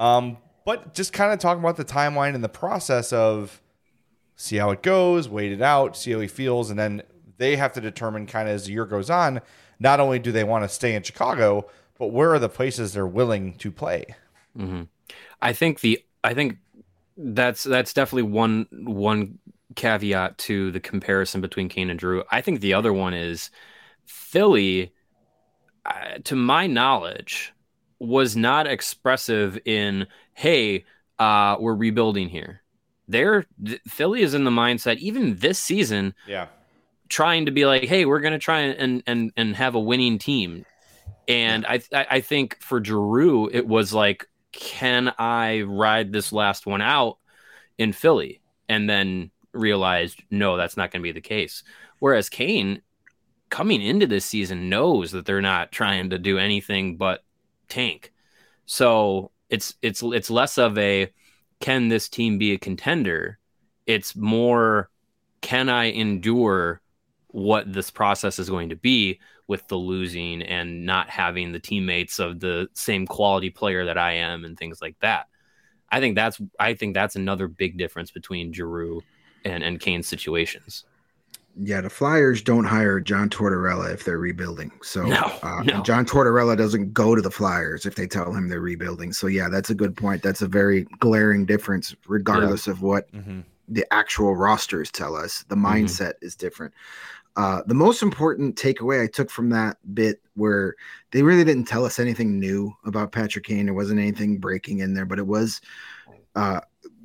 But just kind of talking about the timeline and the process of see how it goes, wait it out, see how he feels, and then they have to determine kind of as the year goes on, not only do they want to stay in Chicago, but where are the places they're willing to play? Mm-hmm. I think that's definitely one caveat to the comparison between Kane and Giroux. I think the other one is Philly, to my knowledge, was not expressive in, hey, we're rebuilding here. Philly is in the mindset, even this season, trying to be like, hey, we're going to try and have a winning team. And I think for Giroux, it was like, can I ride this last one out in Philly? And then realized, no, that's not going to be the case. Whereas Kane, coming into this season, knows that they're not trying to do anything but tank. So it's less of a, can this team be a contender? It's more, can I endure what this process is going to be with the losing and not having the teammates of the same quality player that I am and things like that. I think that's another big difference between Giroux and Kane's situations. Yeah, the Flyers don't hire John Tortorella if they're rebuilding. So no. John Tortorella doesn't go to the Flyers if they tell him they're rebuilding. So yeah, that's a good point. That's a very glaring difference, regardless of what the actual rosters tell us. The mindset is different. The most important takeaway I took from that bit, where they really didn't tell us anything new about Patrick Kane. There wasn't anything breaking in there, but it was, I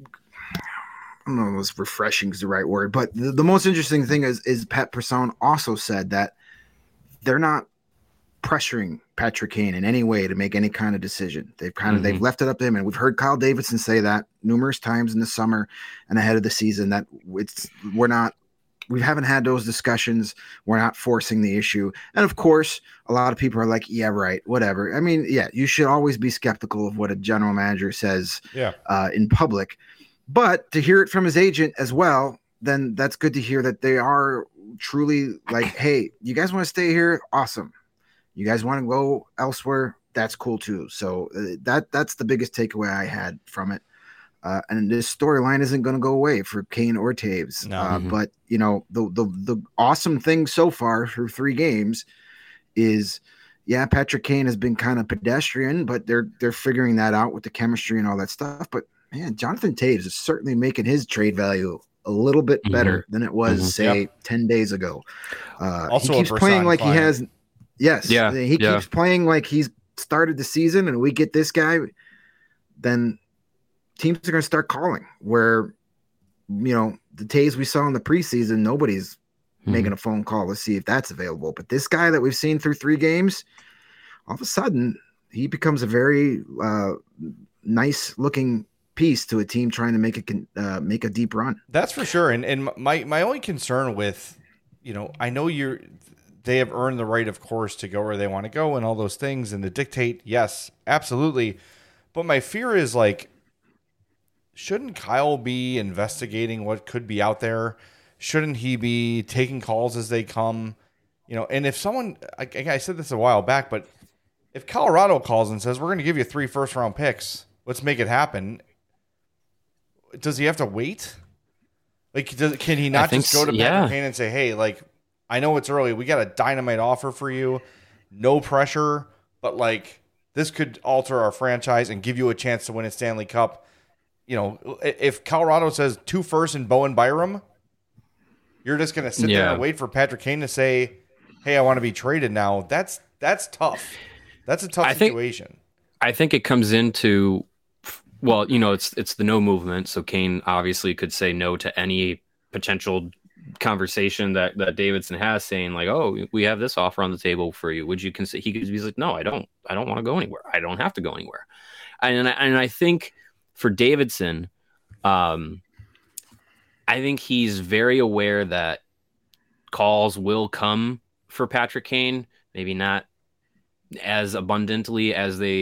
don't know if refreshing is the right word, but the most interesting thing is Pat Brisson also said that they're not pressuring Patrick Kane in any way to make any kind of decision. They've left it up to him, and we've heard Kyle Davidson say that numerous times in the summer and ahead of the season, that we're not we haven't had those discussions. We're not forcing the issue. And of course, a lot of people are like, yeah, right, whatever. I mean, yeah, you should always be skeptical of what a general manager says in public. But to hear it from his agent as well, then that's good to hear that they are truly like, hey, you guys want to stay here? Awesome. You guys want to go elsewhere? That's cool too. So that's the biggest takeaway I had from it. And this storyline isn't going to go away for Kane or Taves. No. But you know, the awesome thing so far through 3 games is, yeah, Patrick Kane has been kind of pedestrian, but they're figuring that out with the chemistry and all that stuff. But man, Jonathan Taves is certainly making his trade value a little bit better than it was, say, 10 days ago. Also, he keeps playing like he has. Yes, he keeps playing like he's started the season, and we get this guy, then teams are going to start calling. Where, you know, the Taves we saw in the preseason, nobody's making a phone call to see if that's available. But this guy that we've seen through 3 games, all of a sudden, he becomes a very nice looking piece to a team trying to make a deep run. That's for sure. And my only concern with, you know, I know they have earned the right, of course, to go where they want to go and all those things and to dictate. Yes, absolutely. But my fear is, like, shouldn't Kyle be investigating what could be out there? Shouldn't he be taking calls as they come? You know, and if someone, I said this a while back, but if Colorado calls and says, we're going to give you 3 first-round picks, let's make it happen, does he have to wait? Like, can he not just go to Patrick Kane and say, hey, like, I know it's early. We got a dynamite offer for you. No pressure, but, like, this could alter our franchise and give you a chance to win a Stanley Cup. You know, if Colorado says 2 firsts and Bowen Byram, you're just going to sit there and wait for Patrick Kane to say, hey, I want to be traded now. That's tough. That's a tough situation. I think it comes into, well, you know, it's the no movement. So Kane obviously could say no to any potential conversation that Davidson has, saying like, oh, we have this offer on the table for you. Would you consider? He could be like, no, I don't want to go anywhere. I don't have to go anywhere. And I think for Davidson, I think he's very aware that calls will come for Patrick Kane. Maybe not as abundantly as they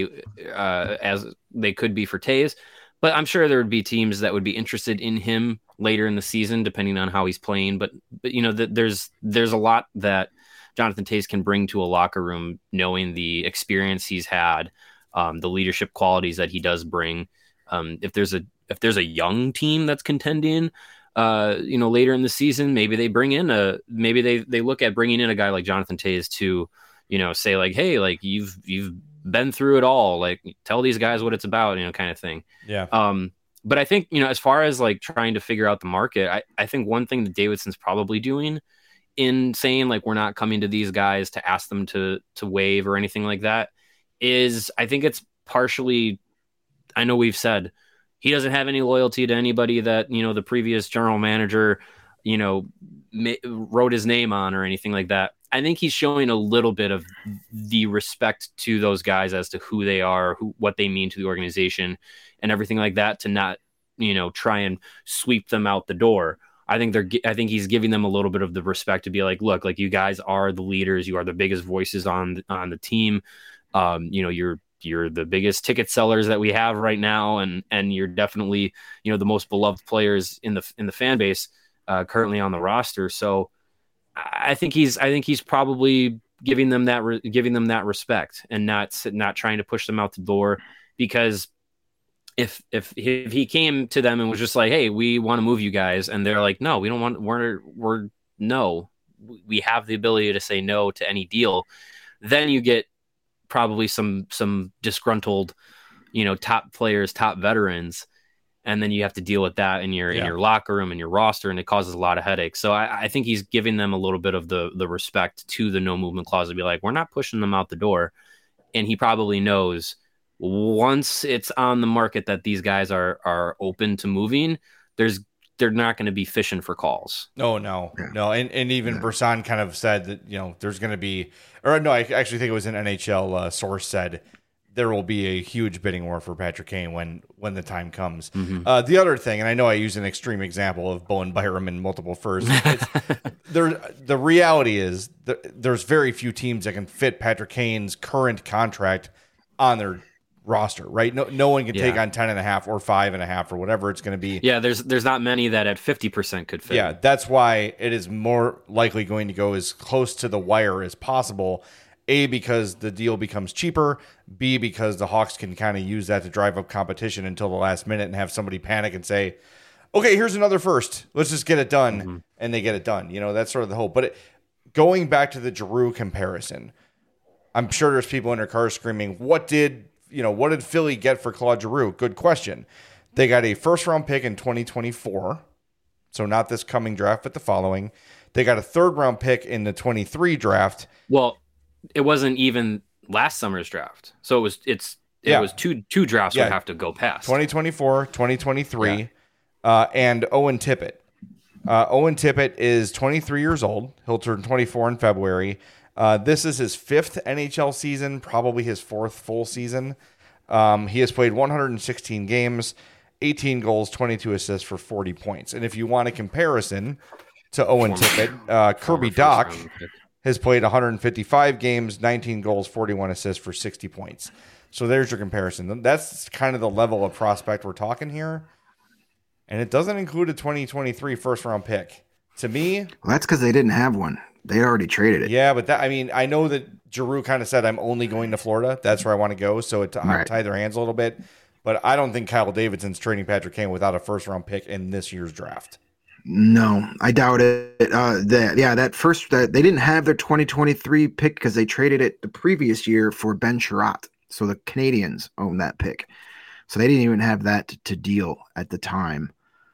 could be for Taves, but I'm sure there would be teams that would be interested in him later in the season, depending on how he's playing. But you know, there's a lot that Jonathan Taves can bring to a locker room, knowing the experience he's had, the leadership qualities that he does bring. If there's a young team that's contending, you know, later in the season, maybe they they look at bringing in a guy like Jonathan Taves to, you know, say like, hey, like you've been through it all, like tell these guys what it's about, you know, kind of thing. Yeah. But I think, you know, as far as like trying to figure out the market, I think one thing that Davidson's probably doing in saying like, we're not coming to these guys to ask them to waive or anything like that is, I think it's partially, I know we've said he doesn't have any loyalty to anybody that, you know, the previous general manager, you know, wrote his name on or anything like that. I think he's showing a little bit of the respect to those guys as to who they are, what they mean to the organization and everything like that, to not, you know, try and sweep them out the door. I think he's giving them a little bit of the respect to be like, look, like you guys are the leaders. You are the biggest voices on the team. You know, you're the biggest ticket sellers that we have right now. And you're definitely, you know, the most beloved players in the fan base currently on the roster. So I think he's probably giving them that respect and not trying to push them out the door, because if he came to them and was just like, hey, we want to move you guys, and they're like, no, we don't want, we have the ability to say no to any deal, then you get probably some disgruntled, you know, top players, top veterans, and then you have to deal with that in your locker room and your roster, and it causes a lot of headaches. So I think he's giving them a little bit of the respect to the no movement clause to be like, we're not pushing them out the door. And he probably knows once it's on the market that these guys are open to moving, they're not going to be fishing for calls. No. And even Brisson kind of said that, you know, there's going to be, or no, I actually think it was an NHL source said there will be a huge bidding war for Patrick Kane when the time comes. The other thing, and I know I use an extreme example of Bowen Byram and multiple firsts. The reality is there's very few teams that can fit Patrick Kane's current contract on their roster, right? No one can take on 10.5 or 5.5 or whatever it's going to be. Yeah, there's not many that at 50% could fit. Yeah, that's why it is more likely going to go as close to the wire as possible. A, because the deal becomes cheaper. B, because the Hawks can kind of use that to drive up competition until the last minute and have somebody panic and say, okay, here's another first. Let's just get it done. And they get it done. That's sort of the hope. But going back to the Giroux comparison, I'm sure there's people in their cars screaming, what did Philly get for Claude Giroux? Good question. They got a first-round pick in 2024, so not this coming draft, but the following. They got a third-round pick in the 23 draft. Well, it wasn't even last summer's draft, so it was two drafts would have to go past 2024, 2023, and Owen Tippett. Owen Tippett is 23 years old. He'll turn 24 in February. This is his 5th NHL season, probably his 4th full season. He has played 116 games, 18 goals, 22 assists for 40 points. And if you want a comparison to Owen Tippett, Kirby Dach has played 155 games, 19 goals, 41 assists for 60 points. So there's your comparison. That's kind of the level of prospect we're talking here. And it doesn't include a 2023 first-round pick. To me... Well, that's because they didn't have one. They already traded it. Yeah, but I know that Giroux kind of said, I'm only going to Florida. That's where I want to go. So it tied their hands a little bit. But I don't think Kyle Davidson's trading Patrick Kane without a first-round pick in this year's draft. No, I doubt it. They didn't have their 2023 pick because they traded it the previous year for Ben Sherratt. So the Canadians own that pick. So they didn't even have that to deal at the time.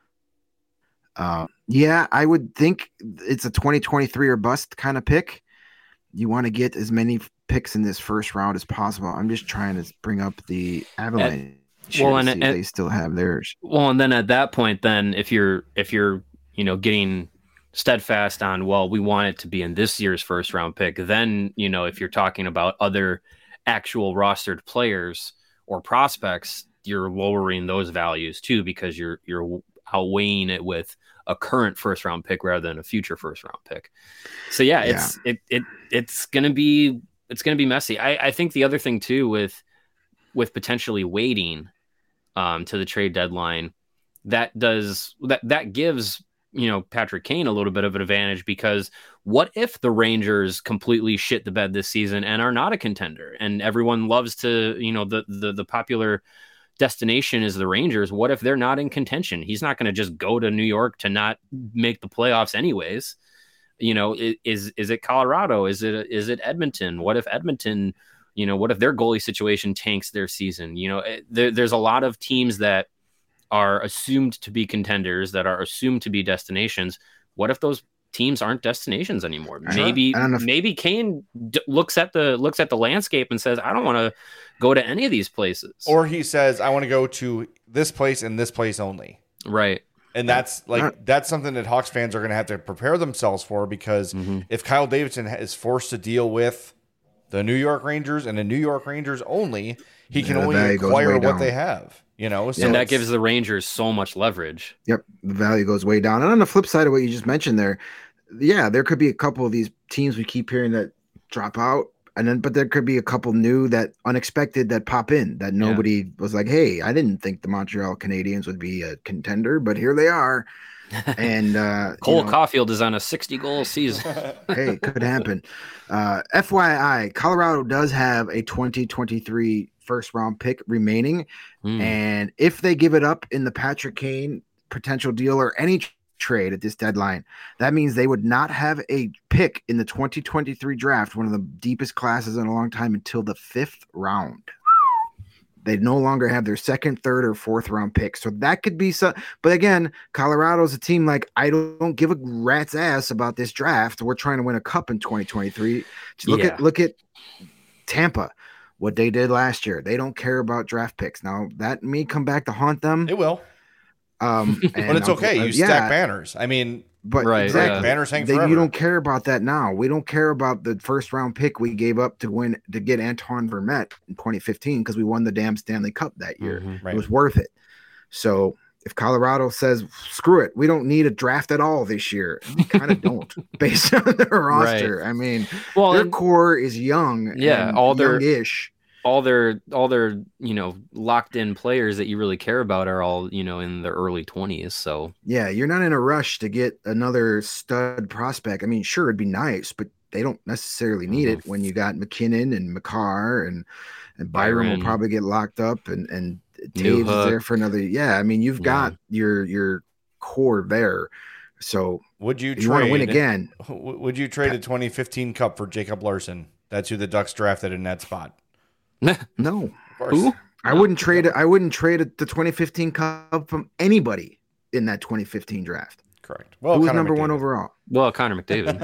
I would think it's a 2023 or bust kind of pick. You want to get as many picks in this first round as possible. I'm just trying to bring up the Avalanche. They still have theirs. Well, and then at that point, then if you're getting steadfast on, well, we want it to be in this year's first round pick, then if you're talking about other actual rostered players or prospects, you're lowering those values too, because you're outweighing it with a current first round pick rather than a future first round pick. So it's gonna be messy. I think the other thing too with potentially waiting to the trade deadline, that gives Patrick Kane a little bit of an advantage, because what if the Rangers completely shit the bed this season and are not a contender, and everyone loves to the popular destination is the Rangers? What if they're not in contention? He's not going to just go to New York to not make the playoffs anyways. Is it Colorado? Is it Edmonton? What if Edmonton, what if their goalie situation tanks their season? There's a lot of teams that are assumed to be contenders, that are assumed to be destinations. What if those teams aren't destinations anymore? Maybe Kane looks at the landscape and says, I don't want to go to any of these places. Or he says, I want to go to this place and this place only. Right. And that's something that Hawks fans are going to have to prepare themselves for, because if Kyle Davidson is forced to deal with the New York Rangers and the New York Rangers only, he can only acquire what they have. So and that gives the Rangers so much leverage. Yep. The value goes way down. And on the flip side of what you just mentioned there, there could be a couple of these teams we keep hearing that drop out, but there could be a couple new that unexpected that pop in that nobody was like, hey, I didn't think the Montreal Canadiens would be a contender, but here they are. And Cole Caulfield is on a 60-goal season. Hey, it could happen. FYI, Colorado does have a 2023 first-round pick remaining, and if they give it up in the Patrick Kane potential deal or any trade at this deadline, that means they would not have a pick in the 2023 draft, one of the deepest classes in a long time, until the 5th round. They no longer have their 2nd, 3rd, or 4th round pick. So that could be some. But again, Colorado's a team like, I don't give a rat's ass about this draft. We're trying to win a cup in 2023. Look at Tampa, what they did last year. They don't care about draft picks. Now that may come back to haunt them. It will. But it's okay. You stack banners. I mean, But Right, exactly, yeah. Banners hang you forever. don't care about that now. We don't care about the first round pick we gave up to get Antoine Vermette in 2015 because we won the damn Stanley Cup that year. Mhm. Right. It was worth it. So if Colorado says, screw it, we don't need a draft at all this year, we kind of don't based on their roster. I mean, Well, their and- core is young, Yeah, and all their- youngish. all their locked in players that you really care about are all in their early 20s. So Yeah, you're not in a rush to get another stud prospect. I mean, sure, it'd be nice, but they don't necessarily need it when you got McKinnon and McCarr and Byron will Byron. probably get locked up and New Taves is there for another. Yeah, I mean, you've got your core there. So Would you if you want to win trade again? Would you trade a 2015 Cup for Jacob Larson? That's who the Ducks drafted in that spot. No, Of course. Who? I wouldn't trade it. I wouldn't trade the 2015 Cup from anybody in that 2015 draft. Correct. Well, Who was Connor number one McDavid. overall? well, Connor McDavid.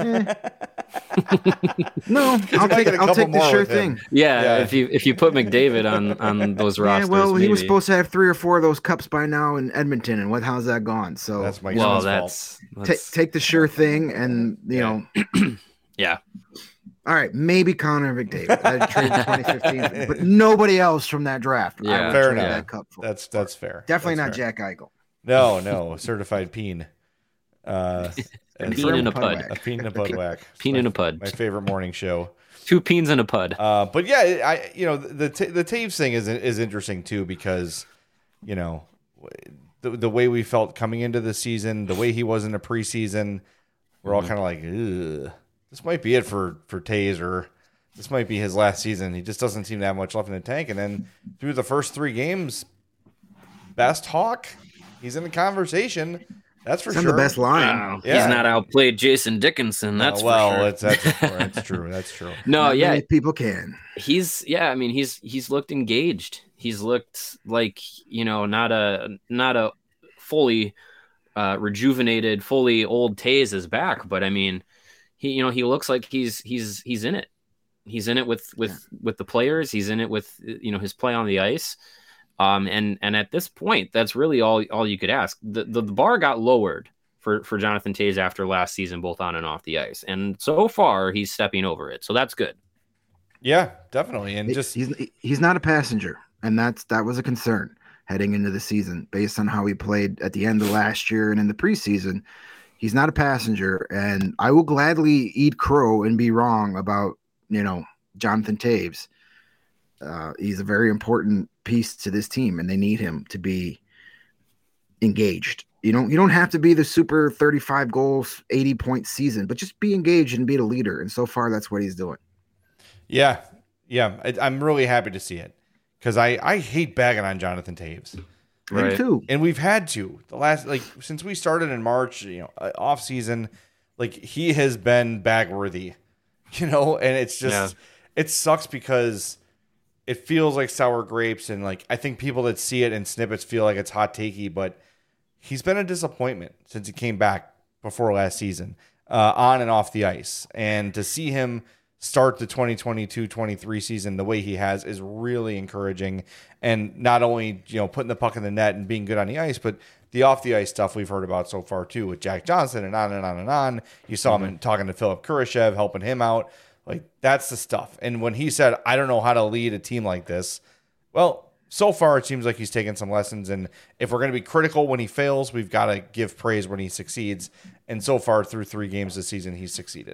No, you might get a I'll couple take the more sure with him. thing. Yeah, Yeah. if you put McDavid on those Yeah, rosters, well, he was maybe. supposed to have 3 or 4 of those cups by now in Edmonton, and how's that gone? So That's Mike Well, Smith's fault. that's take the sure thing, and you know, yeah. all right, maybe Connor McDavid. I traded 2015, but nobody else from that draft. I Yeah. would Fair trade enough. that cup for. That's fair. Definitely That's not fair. Jack Eichel. No, certified peen. And Peen in a From pud. Pudwack. a peen and a bud whack. Peen in a pud. My favorite morning show. 2 peens in a pud. But yeah, the Taves thing is interesting too because the way we felt coming into the season, the way he was in the preseason, we're all kind of like, ugh, this might be it for Taves, or this might be his last season. He just doesn't seem to have much left in the tank. And then through the first 3 games, best Hawk, he's in the conversation. That's for It's on sure. the best line. Wow. Yeah. He's not outplayed Jason Dickinson. That's well, for sure. that's true. That's true. No, Not yeah, many people can. he's looked engaged. He's looked like not a fully rejuvenated, fully old Taze is back, but I mean, he looks like he's in it. He's in it with the players. He's in it with his play on the ice. And at this point, that's really all you could ask. The bar got lowered for Jonathan Taze after last season, both on and off the ice, and so far he's stepping over it. So that's good. Yeah, definitely. And just He's not a passenger, and that was a concern heading into the season based on how he played at the end of last year and in the preseason. He's not a passenger, and I will gladly eat crow and be wrong about Jonathan Taves. He's a very important piece to this team, and they need him to be engaged. You don't have to be the super 35 goals, 80 point season, but just be engaged and be the leader. And so far, that's what he's doing. yeah. I'm really happy to see it because I hate bagging on Jonathan Taves. Me Right. too. And we've had to the last since we started in March, off season, he has been bag worthy, and it's just it sucks because it feels like sour grapes, and I think people that see it in snippets feel like it's hot takey, but he's been a disappointment since he came back before last season, on and off the ice, and to see him start the 2022-23 season the way he has is really encouraging. And not only, putting the puck in the net and being good on the ice, but the off the ice stuff we've heard about so far too with Jack Johnson and on and on and on. You saw him talking to Philip Kurashev, helping him out. That's the stuff. And when he said, I don't know how to lead a team like this, well, so far it seems like he's taken some lessons. And if we're going to be critical when he fails, we've got to give praise when he succeeds. And so far through 3 games this season, he's succeeded.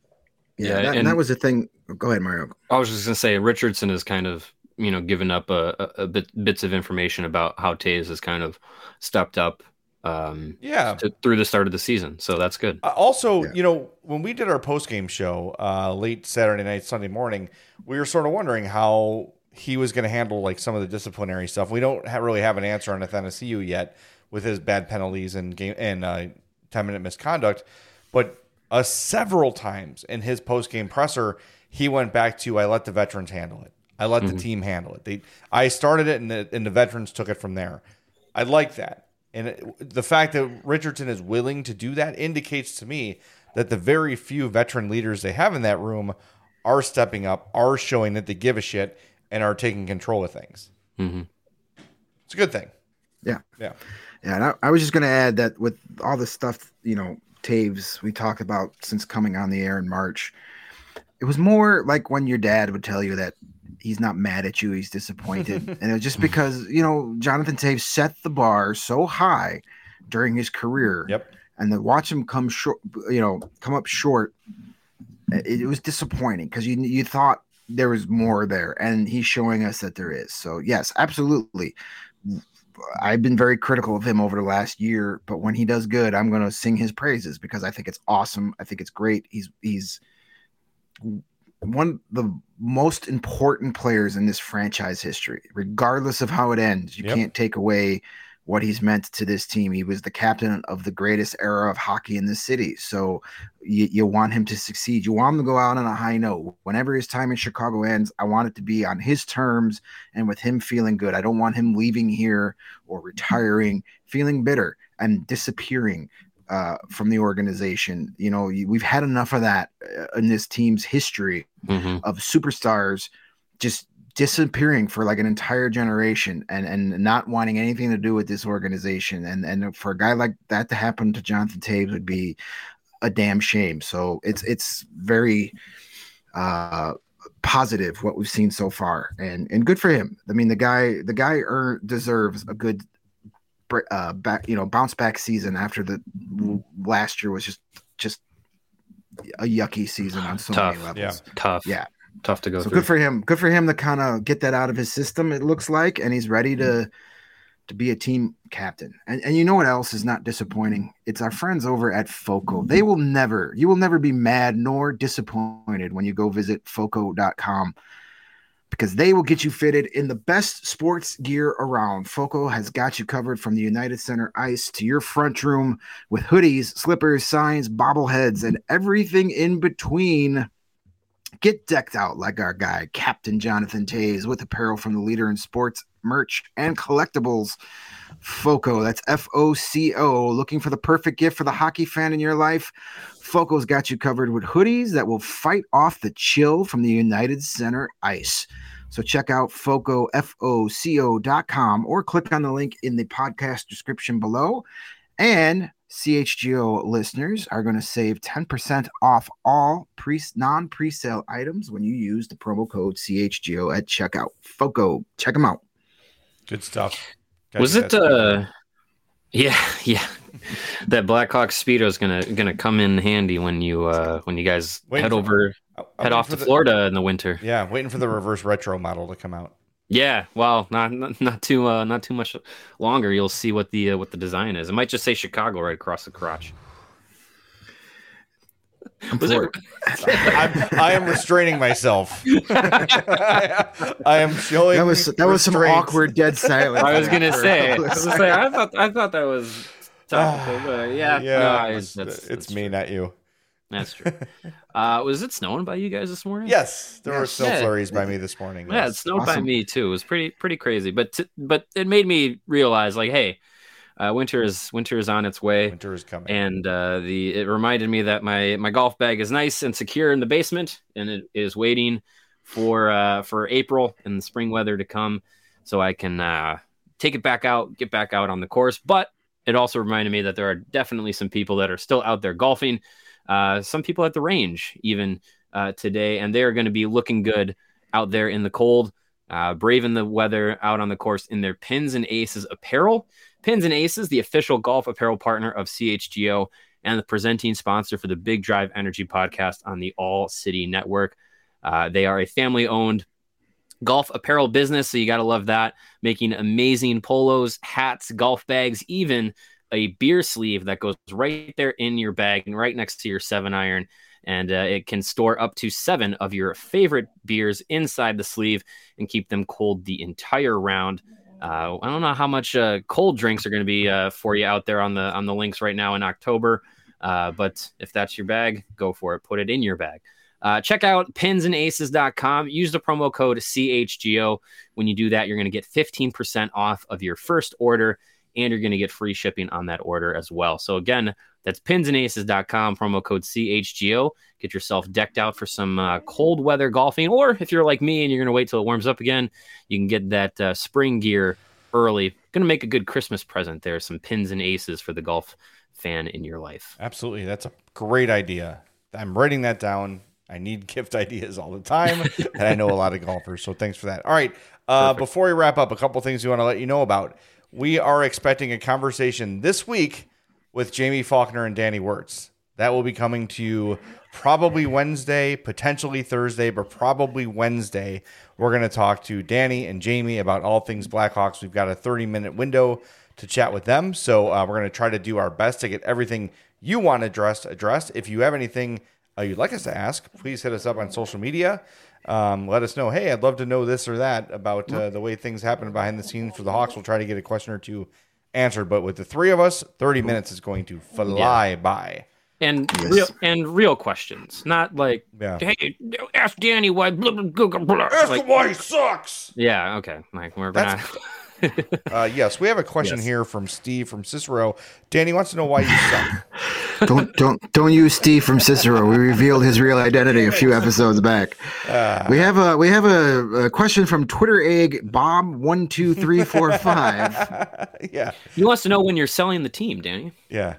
Yeah, and that was the thing. Go ahead, Mario. I was just gonna say Richardson has kind of given up bits of information about how Taze has kind of stepped up through the start of the season, so that's good. Also, when we did our post-game show late Saturday night, Sunday morning, we were sort of wondering how he was going to handle some of the disciplinary stuff. We don't really have an answer on Athanasiou yet with his bad penalties and 10-minute misconduct, but several times in his post-game presser, he went back to, I let the veterans handle it. I let the team handle it. I started it, and the veterans took it from there. I like that. And the fact that Richardson is willing to do that indicates to me that the very few veteran leaders they have in that room are stepping up, are showing that they give a shit, and are taking control of things. Mm-hmm. It's a good thing. Yeah. Yeah. Yeah, and I was just going to add that with all this stuff, Taves we talked about since coming on the air in March. It was more like when your dad would tell you that he's not mad at you, he's disappointed. And it was just because, Jonathan Taves set the bar so high during his career. Yep. And to watch him come up short, it was disappointing because you thought there was more there, and he's showing us that there is. So yes, absolutely. I've been very critical of him over the last year, but when he does good, I'm going to sing his praises because I think it's awesome. I think it's great. He's one of the most important players in this franchise history, regardless of how it ends. You can't take away what he's meant to this team. He was the captain of the greatest era of hockey in this city. So you want him to succeed. You want him to go out on a high note. Whenever his time in Chicago ends, I want it to be on his terms and with him feeling good. I don't want him leaving here or retiring, feeling bitter and disappearing from the organization. We've had enough of that in this team's history of superstars just disappearing for like an entire generation and not wanting anything to do with this organization. And for a guy like that to happen to Jonathan Taves would be a damn shame. So it's very positive what we've seen so far, and good for him. I mean, the guy deserves a good bounce back season after the last year was just a yucky season on so many levels. Tough to go through. So good for him to kind of get that out of his system, it looks like, and he's ready to be a team captain. And you know what else is not disappointing? It's our friends over at FOCO. You will never be mad nor disappointed when you go visit FOCO.com, because they will get you fitted in the best sports gear around. FOCO has got you covered from the United Center ice to your front room with hoodies, slippers, signs, bobbleheads, and everything in between. Get decked out like our guy, Captain Jonathan Taves, with apparel from the leader in sports, merch, and collectibles. FOCO, that's FOCO. Looking for the perfect gift for the hockey fan in your life? FOCO's got you covered with hoodies that will fight off the chill from the United Center ice. So check out FOCO, FOCO.com, or click on the link in the podcast description below. And CHGO listeners are going to save 10% off all non-presale items when you use the promo code CHGO at checkout. FOCO, check them out. Good stuff. Was it yeah. That Blackhawk Speedo is gonna come in handy when you guys head off to Florida in the winter. Yeah, waiting for the reverse retro model to come out. Yeah, well, not too much longer. You'll see what the design is. It might just say Chicago right across the crotch. I am restraining myself. I am showing that was some awkward dead silence. I was gonna say. I thought that was topical, but yeah. It's me, not you. That's true. Was it snowing by you guys this morning? Yes, there were snow flurries by me this morning. Yeah, it snowed by me too. It was pretty crazy, but it made me realize, like, hey, winter is on its way. Winter is coming, and it reminded me that my golf bag is nice and secure in the basement, and it is waiting for April and the spring weather to come, so I can take it back out, get back out on the course. But it also reminded me that there are definitely some people that are still out there golfing. Some people at the range even today, and they're going to be looking good out there in the cold, braving the weather out on the course in their Pins and Aces apparel. Pins and Aces, the official golf apparel partner of CHGO and the presenting sponsor for the Big Drive Energy podcast on the All City Network. They are a family-owned golf apparel business, so you got to love that, making amazing polos, hats, golf bags, even a beer sleeve that goes right there in your bag and right next to your 7-iron. And it can store up to 7 of your favorite beers inside the sleeve and keep them cold the entire round. I don't know how much cold drinks are going to be for you out there on the links right now in October. But if that's your bag, go for it. Put it in your bag. Check out pinsandaces.com. Use the promo code CHGO. When you do that, you're going to get 15% off of your first order, and you're going to get free shipping on that order as well. So again, that's pinsandaces.com, promo code CHGO. Get yourself decked out for some cold weather golfing. Or if you're like me and you're going to wait till it warms up again, you can get that spring gear early. Going to make a good Christmas present there. Some pins and aces for the golf fan in your life. Absolutely. That's a great idea. I'm writing that down. I need gift ideas all the time, and I know a lot of golfers, so thanks for that. All right, before we wrap up, a couple things we want to let you know about. We are expecting a conversation this week with Jamie Faulkner and Danny Wirtz. That will be coming to you probably Wednesday, potentially Thursday, but probably Wednesday. We're going to talk to Danny and Jamie about all things Blackhawks. We've got a 30-minute window to chat with them, so we're going to try to do our best to get everything you want addressed. If you have anything you'd like us to ask, please hit us up on social media. Let us know, hey, I'd love to know this or that about the way things happen behind the scenes for the Hawks. We'll try to get a question or two answered. But with the three of us, 30 minutes is going to fly by. And real questions, not like, hey, ask Danny why. Blah, blah, blah, blah. Ask him why he sucks. Yeah, okay. Like we're not. Yes, we have a question here from Steve from Cicero. Danny wants to know why you suck. Don't use Steve from Cicero. We revealed his real identity a few episodes back. We have a question from Twitter egg Bob12345. Yeah, he wants to know when you're selling the team, Danny. Yeah.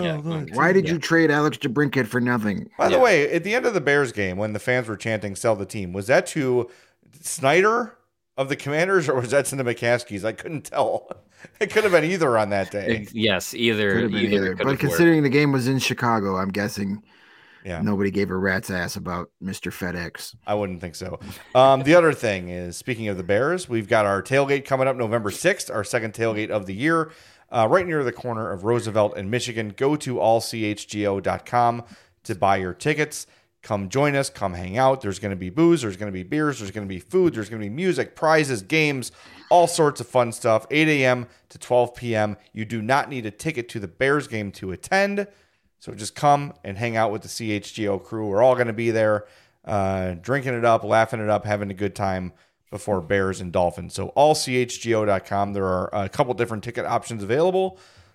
Why did you trade Alex DeBrincat for nothing? By the way, at the end of the Bears game, when the fans were chanting "Sell the team," was that to Snyder of the Commanders, or was that to the McCaskies? I couldn't tell. It could have been either on that day. Yes, either. But considering the game was in Chicago, I'm guessing nobody gave a rat's ass about Mr. FedEx. I wouldn't think so. The other thing is, speaking of the Bears, we've got our tailgate coming up November 6th, our second tailgate of the year, right near the corner of Roosevelt and Michigan. Go to allchgo.com to buy your tickets. Come join us. Come hang out. There's going to be booze. There's going to be beers. There's going to be food. There's going to be music, prizes, games, all sorts of fun stuff. 8 a.m. to 12 p.m. You do not need a ticket to the Bears game to attend. So just come and hang out with the CHGO crew. We're all going to be there drinking it up, laughing it up, having a good time before Bears and Dolphins. So allchgo.com. There are a couple different ticket options available.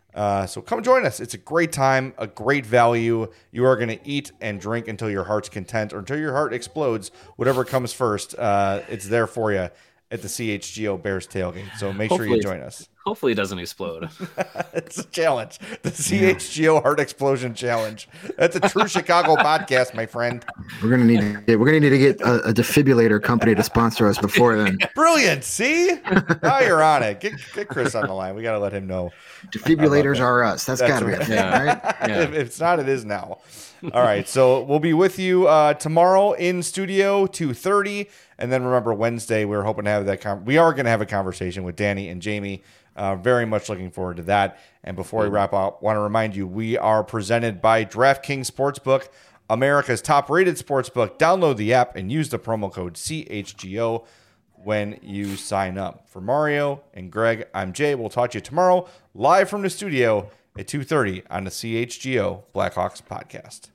So come join us. It's a great time, a great value. You are going to eat and drink until your heart's content or until your heart explodes. Whatever comes first, it's there for you at the CHGO Bears tailgate. So make sure you join us. Hopefully it doesn't explode. It's a challenge. The CHGO Heart Explosion Challenge. That's a true Chicago podcast, my friend. We're gonna need to get a defibrillator company to sponsor us before then. Brilliant. See? Now you're on it. Get Chris on the line. We got to let him know. Defibrillators are us. That's got to be a thing, right? Yeah. If it's not, it is now. All right. So we'll be with you tomorrow in studio 2:30, and then remember Wednesday we're hoping to have that. We are going to have a conversation with Danny and Jamie. Very much looking forward to that. And before we wrap up, want to remind you we are presented by DraftKings Sportsbook, America's top-rated sportsbook. Download the app and use the promo code CHGO when you sign up. For Mario and Greg, I'm Jay. We'll talk to you tomorrow live from the studio at 2:30 on the CHGO Blackhawks podcast.